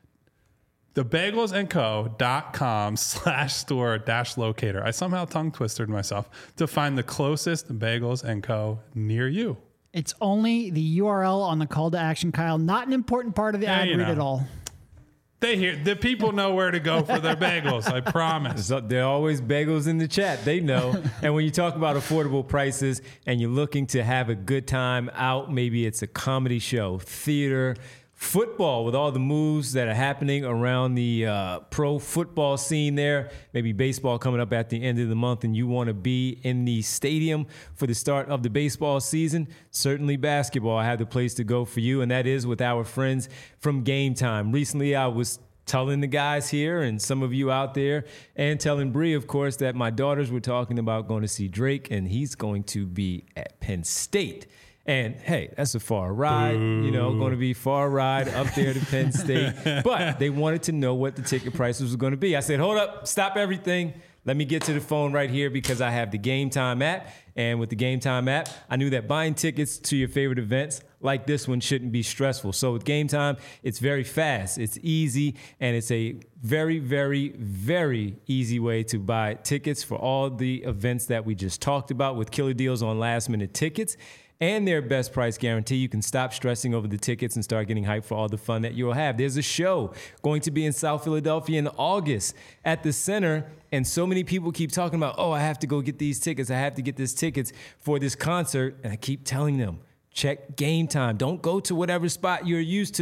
Speaker 2: thebagelsandco.com slash store dash locator. I somehow tongue twisted myself to find the closest Bagels and Co. near you.
Speaker 3: It's only the U R L on the call to action, Kyle. Not an important part of the
Speaker 2: Yeah,
Speaker 3: ad
Speaker 2: you
Speaker 3: read
Speaker 2: know.
Speaker 3: at all.
Speaker 2: They hear the people know where to go for their bagels. I promise.
Speaker 1: So there are always bagels in the chat. They know. And when you talk about affordable prices and you're looking to have a good time out, maybe it's a comedy show, theater, football with all the moves that are happening around the uh, pro football scene there, maybe baseball coming up at the end of the month and you want to be in the stadium for the start of the baseball season, certainly basketball, I have the place to go for you, and that is with our friends from Game Time. Recently, I was telling the guys here and some of you out there and telling Bree, of course, that my daughters were talking about going to see Drake, and he's going to be at Penn State. And hey, that's a far ride, you know, going to be far ride up there to Penn State. But they wanted to know what the ticket prices were going to be. I said, hold up, stop everything. Let me get to the phone right here because I have the Game Time app. And with the Game Time app, I knew that buying tickets to your favorite events like this one shouldn't be stressful. So with Game Time, it's very fast, it's easy, and it's a very, very, very easy way to buy tickets for all the events that we just talked about with killer deals on last minute tickets and their best price guarantee. You can stop stressing over the tickets and start getting hyped for all the fun that you'll have. There's a show going to be in South Philadelphia in August at the Center, and so many people keep talking about, oh, I have to go get these tickets. I have to get these tickets for this concert, and I keep telling them, check Game Time. Don't go to whatever spot you're used to.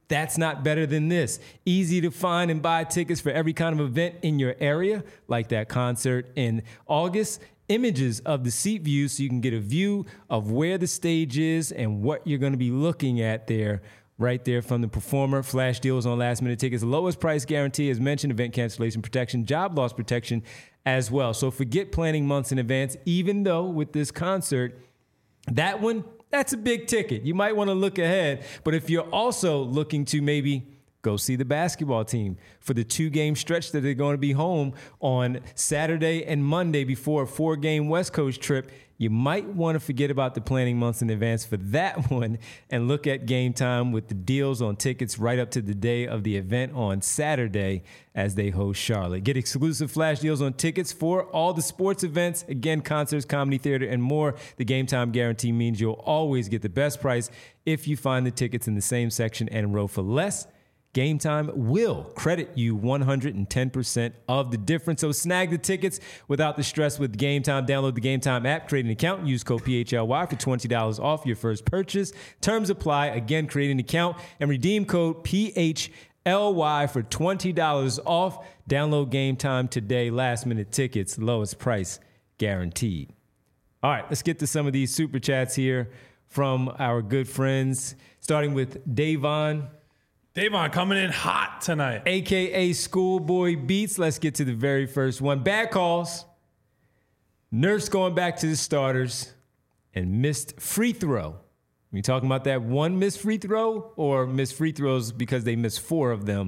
Speaker 1: That's not better than this. Easy to find and buy tickets for every kind of event in your area, like that concert in August. Images of the seat view so you can get a view of where the stage is and what you're going to be looking at there, right there from the performer. Flash deals on last minute tickets. Lowest price guarantee, as mentioned, event cancellation protection, job loss protection as well. So forget planning months in advance, even though with this concert, that one, that's a big ticket. You might want to look ahead. But if you're also looking to maybe go see the basketball team for the two-game stretch that they're going to be home on Saturday and Monday before a four-game West Coast trip, you might want to forget about the planning months in advance for that one and look at Game Time with the deals on tickets right up to the day of the event on Saturday as they host Charlotte. Get exclusive flash deals on tickets for all the sports events, again, concerts, comedy, theater, and more. The Game Time guarantee means you'll always get the best price if you find the tickets in the same section and row for less. Game Time will credit you one hundred ten percent of the difference. So snag the tickets without the stress with Game Time. Download the Game Time app, create an account, and use code P H L Y for twenty dollars off your first purchase. Terms apply. Again, create an account and redeem code P H L Y for twenty dollars off. Download Game Time today. Last minute tickets, lowest price guaranteed. All right, let's get to some of these super chats here from our good friends, starting with Davon.
Speaker 2: Davon coming in hot tonight.
Speaker 1: A K A Schoolboy Beats. Let's get to the very first one. Bad calls. Nurse going back to the starters and missed free throw. We talking about that one missed free throw or missed free throws because they missed four of them?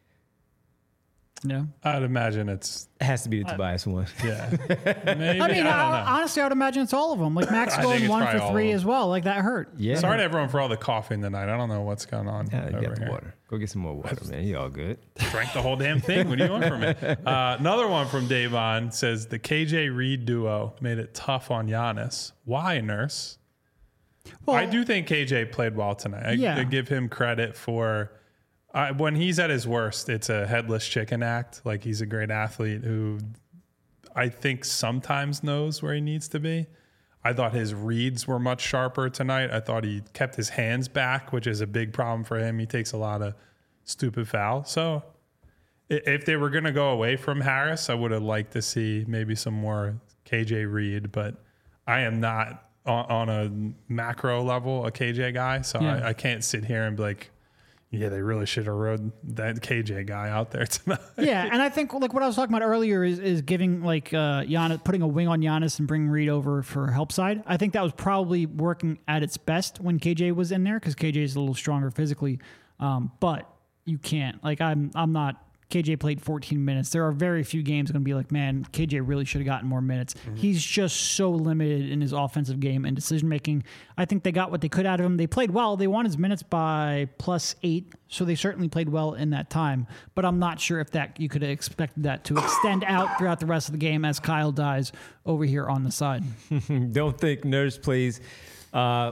Speaker 3: Yeah.
Speaker 2: I'd imagine it's...
Speaker 1: It has to be the Tobias one.
Speaker 2: Yeah. Maybe,
Speaker 3: I mean,
Speaker 2: I don't know.
Speaker 3: I, honestly, I would imagine it's all of them. Like Max
Speaker 2: I think
Speaker 3: going
Speaker 2: it's
Speaker 3: one
Speaker 2: probably
Speaker 3: for
Speaker 2: all
Speaker 3: three
Speaker 2: of
Speaker 3: as
Speaker 2: them.
Speaker 3: well. Like that hurt.
Speaker 1: Yeah.
Speaker 2: Sorry to everyone for all the coughing tonight. I don't know what's going on
Speaker 1: Yeah, you
Speaker 2: over
Speaker 1: got the
Speaker 2: here.
Speaker 1: water. Go get some more water, man. You all good.
Speaker 2: Drank the whole damn thing. What do you want from me? Uh, another one from Davon says the K J Reed duo made it tough on Giannis. Why, Nurse?
Speaker 3: Well,
Speaker 2: I do think K J played well tonight. I,
Speaker 3: Yeah.
Speaker 2: I give him credit for uh, when he's at his worst, it's a headless chicken act. Like he's a great athlete who I think sometimes knows where he needs to be. I thought his reads were much sharper tonight. I thought he kept his hands back, which is a big problem for him. He takes a lot of stupid fouls. So i- if they were going to go away from Harris, I would have liked to see maybe some more K J Reed, but I am not on, on a macro level a K J guy. So
Speaker 3: Yeah.
Speaker 2: I, I can't sit here and be like, yeah, they really should have rode that K J guy out there tonight.
Speaker 3: Yeah, and I think like what I was talking about earlier is is giving like uh Giannis, putting a wing on Giannis and bringing Reed over for help side. I think that was probably working at its best when K J was in there because K J is a little stronger physically. Um, but you can't like I'm I'm not. K J played fourteen minutes. There are very few games going to be like, man, K J really should have gotten more minutes. Mm-hmm. He's just so limited in his offensive game and decision making. I think they got what they could out of him. They played well. They won his minutes by plus eight, so they certainly played well in that time. But I'm not sure if that you could have expected that to extend out throughout the rest of the game as Kyle dies over here on the side.
Speaker 1: Don't think Nurse plays uh,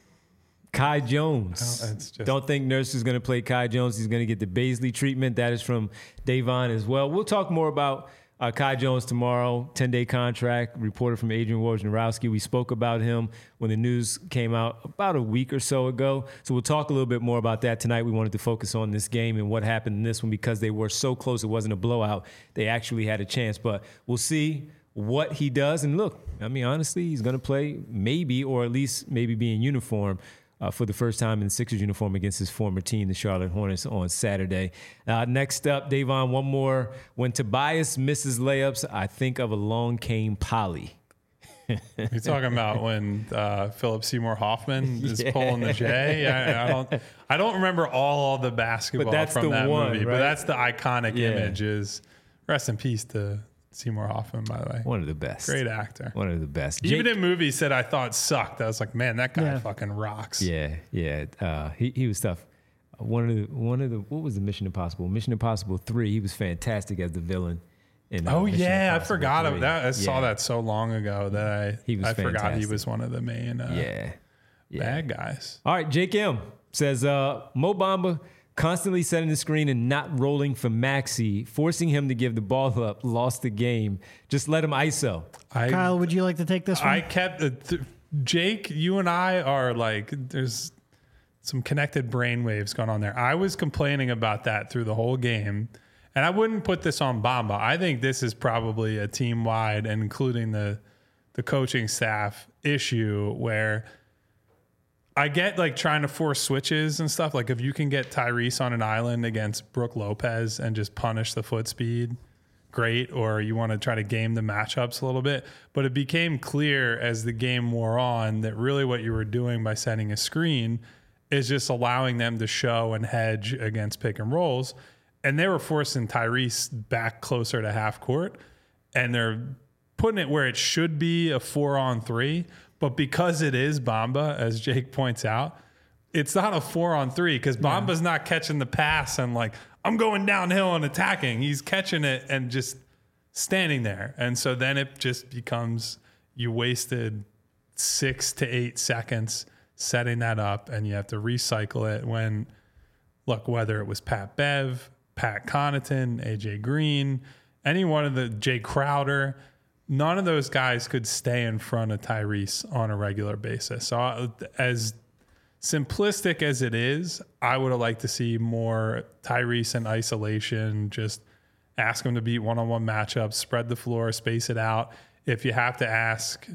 Speaker 1: Kai Jones.
Speaker 2: Oh, it's just-
Speaker 1: Don't think Nurse is going to play Kai Jones. He's going to get the Baisley treatment. That is from Davon as well. We'll talk more about uh, Kai Jones tomorrow. ten-day contract. Reporter from Adrian Wojnarowski. We spoke about him when the news came out about a week or so ago. So we'll talk a little bit more about that tonight. We wanted to focus on this game and what happened in this one because they were so close. It wasn't a blowout. They actually had a chance. But we'll see what he does. And look, I mean, honestly, he's going to play maybe or at least maybe be in uniform Uh, for the first time in the Sixers uniform against his former team, the Charlotte Hornets, on Saturday. Uh, next up, Davon, one more. When Tobias misses layups, I think of Along Came Polly.
Speaker 2: You're talking about when uh, Philip Seymour Hoffman is
Speaker 1: Yeah.
Speaker 2: pulling the J. I, I don't. I don't remember all the basketball
Speaker 1: But that's
Speaker 2: from
Speaker 1: the
Speaker 2: that
Speaker 1: one,
Speaker 2: movie,
Speaker 1: right?
Speaker 2: but that's the iconic
Speaker 1: Yeah.
Speaker 2: image. Is rest in peace to Seymour Hoffman, by the way.
Speaker 1: One of the best.
Speaker 2: Great actor.
Speaker 1: One of the best.
Speaker 2: Even
Speaker 1: Jake-
Speaker 2: in movies that I thought sucked, I was like, man, that guy
Speaker 3: Yeah.
Speaker 2: fucking rocks.
Speaker 1: Yeah, yeah. Uh, he he was tough. Uh, One of the one of the what was the Mission Impossible? Mission Impossible three. He was fantastic as the villain. In, uh,
Speaker 2: Oh
Speaker 1: Mission
Speaker 2: yeah, I
Speaker 1: Impossible
Speaker 2: forgot
Speaker 1: three.
Speaker 2: of that. I saw
Speaker 1: Yeah.
Speaker 2: that so long ago that I
Speaker 1: He was
Speaker 2: I forgot he
Speaker 1: fantastic.
Speaker 2: was one of the main uh,
Speaker 1: Yeah, yeah.
Speaker 2: bad guys.
Speaker 1: All right, Jake M says uh, Mo Bamba constantly setting the screen and not rolling for Maxey, forcing him to give the ball up, lost the game. Just let him I S O.
Speaker 2: I
Speaker 3: Kyle, would you like to take this one?
Speaker 2: I kept uh, th- Jake. You and I are like there's some connected brain waves going on there. I was complaining about that through the whole game. And I wouldn't put this on Bamba. I think this is probably a team-wide, and including the the coaching staff issue, where I get like trying to force switches and stuff. Like if you can get Tyrese on an island against Brook Lopez and just punish the foot speed, great. Or you want to try to game the matchups a little bit. But it became clear as the game wore on that really what you were doing by setting a screen is just allowing them to show and hedge against pick and rolls. And they were forcing Tyrese back closer to half court, and they're putting it where it should be a four on three. But because it is Bamba, as Jake points out, it's not a four on three because Bamba's yeah. not catching the pass and like, I'm going downhill and attacking. He's catching it and just standing there. And so then it just becomes you wasted six to eight seconds setting that up, and you have to recycle it when, look, whether it was Pat Bev, Pat Connaughton, A J Green, any one of the Jay Crowder, none of those guys could stay in front of Tyrese on a regular basis. So uh, as simplistic as it is, I would have liked to see more Tyrese in isolation, just ask him to beat one-on-one matchups, spread the floor, space it out. If you have to ask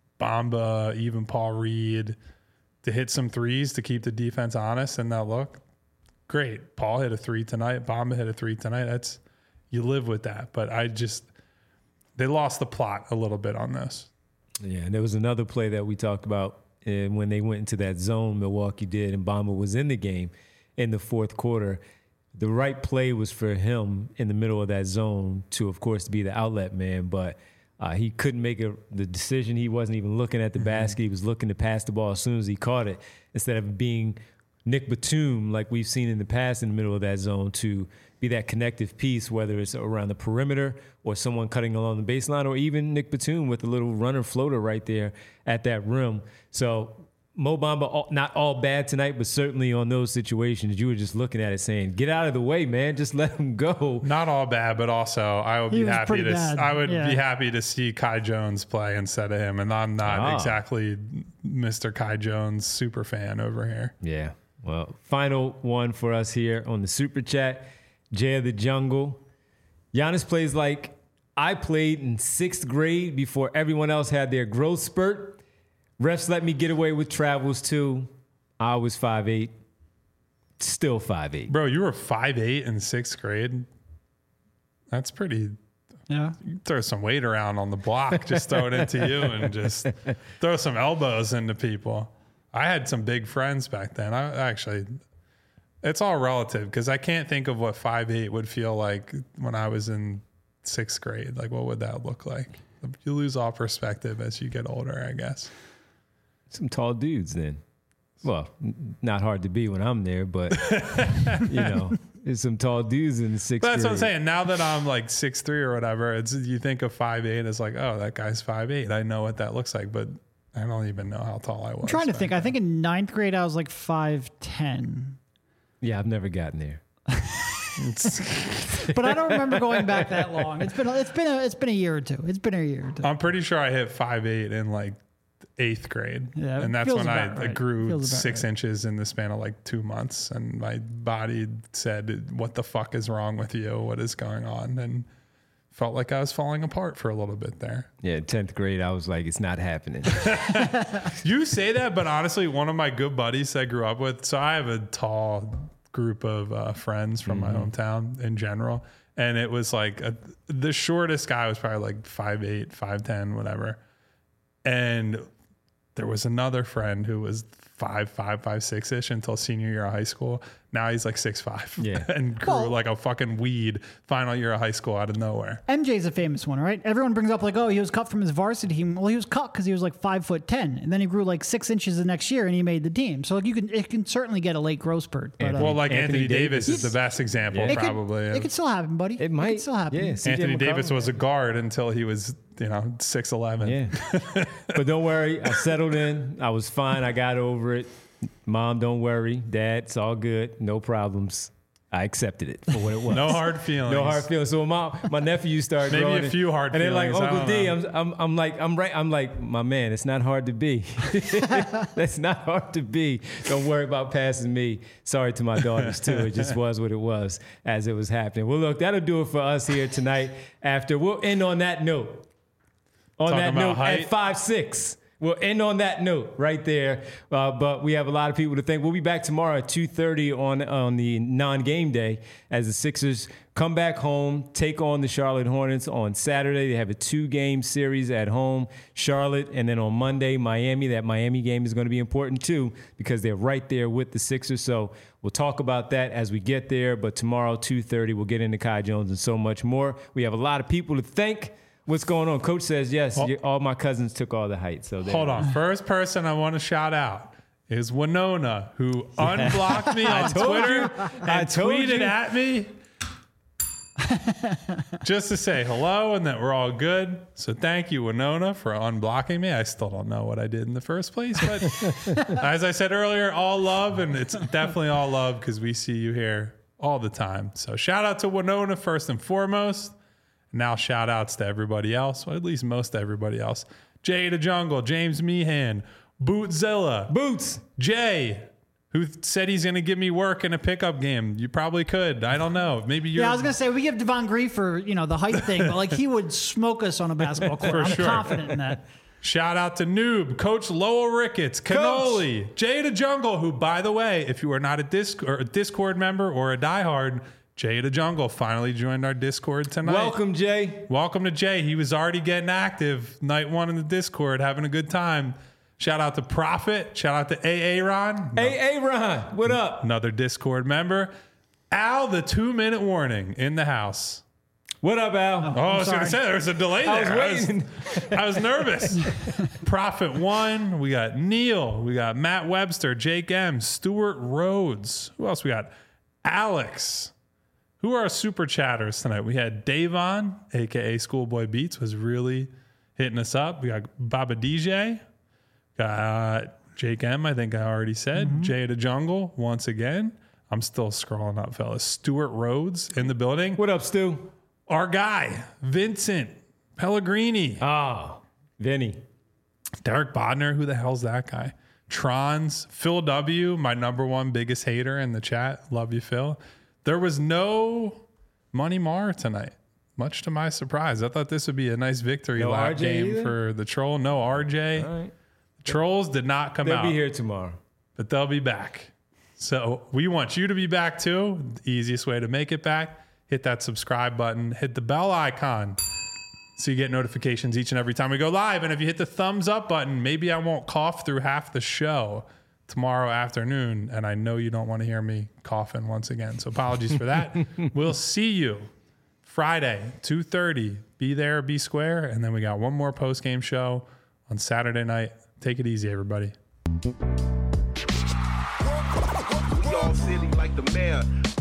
Speaker 2: Bamba, even Paul Reed, to hit some threes to keep the defense honest and not look, great. Paul hit a three tonight. Bamba hit a three tonight. That's, you live with that. But I just, they lost the plot a little bit on this.
Speaker 1: Yeah, and there was another play that we talked about and when they went into that zone Milwaukee did, and Bamba was in the game in the fourth quarter. The right play was for him in the middle of that zone to, of course, be the outlet man, but uh, he couldn't make a, the decision. He wasn't even looking at the mm-hmm. basket. He was looking to pass the ball as soon as he caught it, instead of being Nick Batum, like we've seen in the past in the middle of that zone, to be that connective piece, whether it's around the perimeter or someone cutting along the baseline, or even Nick Batum with a little runner floater right there at that rim. So Mo Bamba, not all bad tonight, but certainly on those situations, you were just looking at it saying, get out of the way, man. Just let him go.
Speaker 2: Not all bad, but also I would
Speaker 3: He
Speaker 2: be
Speaker 3: was
Speaker 2: happy
Speaker 3: pretty
Speaker 2: to
Speaker 3: bad.
Speaker 2: I would
Speaker 3: Yeah.
Speaker 2: be happy to see Kai Jones play instead of him. And I'm not
Speaker 1: Ah.
Speaker 2: exactly Mister Kai Jones super fan over here.
Speaker 1: Yeah. Well, final one for us here on the Super Chat. Jay of the Jungle. Giannis plays like I played in sixth grade before everyone else had their growth spurt. Refs let me get away with travels too. I was five eight, still five eight.
Speaker 2: Bro, you were five eight in sixth grade. That's pretty.
Speaker 3: Yeah.
Speaker 2: You throw some weight around on the block, just throw it into you and just throw some elbows into people. I had some big friends back then. I actually, it's all relative because I can't think of what five eight would feel like when I was in sixth grade. Like, what would that look like? You lose all perspective as you get older, I guess.
Speaker 1: Some tall dudes then. Well, n- not hard to be when I'm there, but, you know, there's some tall dudes in the sixth
Speaker 2: But that's
Speaker 1: grade.
Speaker 2: what I'm saying. Now that I'm like six three or whatever, it's you think of five eight as like, oh, that guy's five eight. I know what that looks like, but I don't even know how tall I was.
Speaker 3: I'm trying to
Speaker 2: back
Speaker 3: think.
Speaker 2: then.
Speaker 3: I think in ninth grade, I was like five ten.
Speaker 1: Yeah, I've never gotten there.
Speaker 3: But I don't remember going back that long. It's been it's been a, it's been a year or two. It's been a year or two.
Speaker 2: I'm pretty sure I hit five eight in like eighth grade.
Speaker 3: Yeah,
Speaker 2: and that's
Speaker 3: feels
Speaker 2: when I
Speaker 3: about right.
Speaker 2: grew
Speaker 3: Feels about
Speaker 2: six
Speaker 3: right.
Speaker 2: inches in the span of like two months. And my body said, what the fuck is wrong with you? What is going on? And felt like I was falling apart for a little bit there.
Speaker 1: Yeah, tenth grade, I was like, it's not happening.
Speaker 2: You say that, but honestly, one of my good buddies that I grew up with, so I have a tall group of uh, friends from
Speaker 1: Mm-hmm.
Speaker 2: my hometown in general. And it was like a, the shortest guy was probably like five eight, five ten, whatever. And there was another friend who was five five, five six ish until senior year of high school. Now he's like six five.
Speaker 1: Yeah.
Speaker 2: And grew
Speaker 3: Well-
Speaker 2: like a fucking weed final year of high school out of nowhere.
Speaker 3: M J's a famous one, right? Everyone brings up like, oh, he was cut from his varsity team. Well, he was cut because he was like five foot ten, and then he grew like six inches the next year, and he made the team. So like, you can it can certainly get a late growth spurt. But,
Speaker 1: And-
Speaker 3: uh,
Speaker 2: Well, like
Speaker 1: Anthony
Speaker 2: Anthony, Davis,
Speaker 1: Davis.
Speaker 2: is the best example,
Speaker 1: Yeah.
Speaker 3: it could-
Speaker 2: probably.
Speaker 3: it could still happen, buddy.
Speaker 1: It might
Speaker 3: could still happen.
Speaker 1: Yeah, C J
Speaker 2: Anthony
Speaker 1: McCollum.
Speaker 2: Davis was a guard until he was, you know, six eleven.
Speaker 1: Yeah. But don't worry. I settled in. I was fine. I got over it. Mom, don't worry. Dad, it's all good. No problems. I accepted it for what it was.
Speaker 2: No hard feelings.
Speaker 1: No hard feelings. So my my nephew started
Speaker 2: Maybe
Speaker 1: growing
Speaker 2: a few hard
Speaker 1: and
Speaker 2: feelings.
Speaker 1: And they're like, Uncle D,
Speaker 2: know.
Speaker 1: I'm, I'm I'm like I'm right. I'm like, my man, it's not hard to be. That's not hard to be. Don't worry about passing me. Sorry to my daughters too. It just was what it was as it was happening. Well, look, that'll do it for us here tonight. After we'll end on that note. On
Speaker 2: Talking
Speaker 1: that
Speaker 2: about
Speaker 1: note,
Speaker 2: height.
Speaker 1: at five six. We'll end on that note right there. Uh, but we have a lot of people to thank. We'll be back tomorrow at two thirty on, on the non-game day as the Sixers come back home, take on the Charlotte Hornets on Saturday. They have a two-game series at home, Charlotte, and then on Monday, Miami. That Miami game is going to be important too because they're right there with the Sixers. So we'll talk about that as we get there. But tomorrow, two thirty, we'll get into Kai Jones and so much more. We have a lot of people to thank. What's going on? Coach says, yes,
Speaker 2: Well,
Speaker 1: you, all my cousins took all the height. So
Speaker 2: Hold on. First person I want to shout out is Winona, who unblocked me on
Speaker 1: told
Speaker 2: Twitter
Speaker 1: you.
Speaker 2: and
Speaker 1: I told
Speaker 2: tweeted
Speaker 1: you.
Speaker 2: at me just to say hello and that we're all good. So thank you, Winona, for unblocking me. I still don't know what I did in the first place, but as I said earlier, all love, and it's definitely all love because we see you here all the time. So shout out to Winona first and foremost. Now shout outs to everybody else, well, at least most everybody else. Jay the Jungle, James Meehan, Bootzilla,
Speaker 1: Boots.
Speaker 2: Jay, who said he's going to give me work in a pickup game. You probably could. I don't know. Maybe you're.
Speaker 3: Yeah, I was gonna say we give Devon Griefer, you know, the height thing, but like he would smoke us on a basketball court.
Speaker 2: For
Speaker 3: I'm
Speaker 2: sure.
Speaker 3: confident in that.
Speaker 2: Shout out to Noob, Coach Lowell Ricketts, Cannoli, Jay the Jungle, who, by the way, if you are not a, Disc- or a Discord member or a diehard, Jay the Jungle finally joined our Discord tonight.
Speaker 1: Welcome, Jay.
Speaker 2: Welcome to Jay. He was already getting active night one in the Discord, having a good time. Shout out to Prophet. Shout out to A A Ron.
Speaker 1: Hey, hey, Ron, what up?
Speaker 2: Another Discord member. Al, the two-minute warning in the house.
Speaker 1: What up, Al?
Speaker 2: Oh, I was going to
Speaker 3: sorry.
Speaker 2: say, there was a delay
Speaker 1: I was
Speaker 2: there.
Speaker 1: waiting.
Speaker 2: I was, I was nervous. Prophet one. We got Neil. We got Matt Webster, Jake M, Stuart Rhodes. Who else we got? Alex. Who are our super chatters tonight? We had Davon, a k a. Schoolboy Beats, was really hitting us up. We got Baba D J. Got Jake M, I think I already said. Mm-hmm. Jay the Jungle, once again. I'm still scrolling up, fellas. Stuart Rhodes in the building.
Speaker 1: What up, Stu?
Speaker 2: Our guy, Vincent Pellegrini.
Speaker 1: Ah, Vinny.
Speaker 2: Derek Bodner, who the hell's that guy? Trons, Phil W, my number one biggest hater in the chat. Love you, Phil. There was no Money Mar tonight, much to my surprise. I thought this would be a nice victory
Speaker 1: No
Speaker 2: lap
Speaker 1: R J
Speaker 2: game
Speaker 1: either?
Speaker 2: for the Troll. No R J.
Speaker 1: All right.
Speaker 2: Trolls did not come
Speaker 1: They'll
Speaker 2: out,
Speaker 1: be here tomorrow.
Speaker 2: but they'll be back. So we want you to be back too. The easiest way to make it back, hit that subscribe button, hit the bell icon so you get notifications each and every time we go live. And if you hit the thumbs up button, maybe I won't cough through half the show tomorrow afternoon. And I know you don't want to hear me coughing once again. So apologies for that. We'll see you Friday, two thirty. Be there, be square. And then we got one more post-game show on Saturday night. Take it easy, everybody.
Speaker 4: We all silly like the mayor.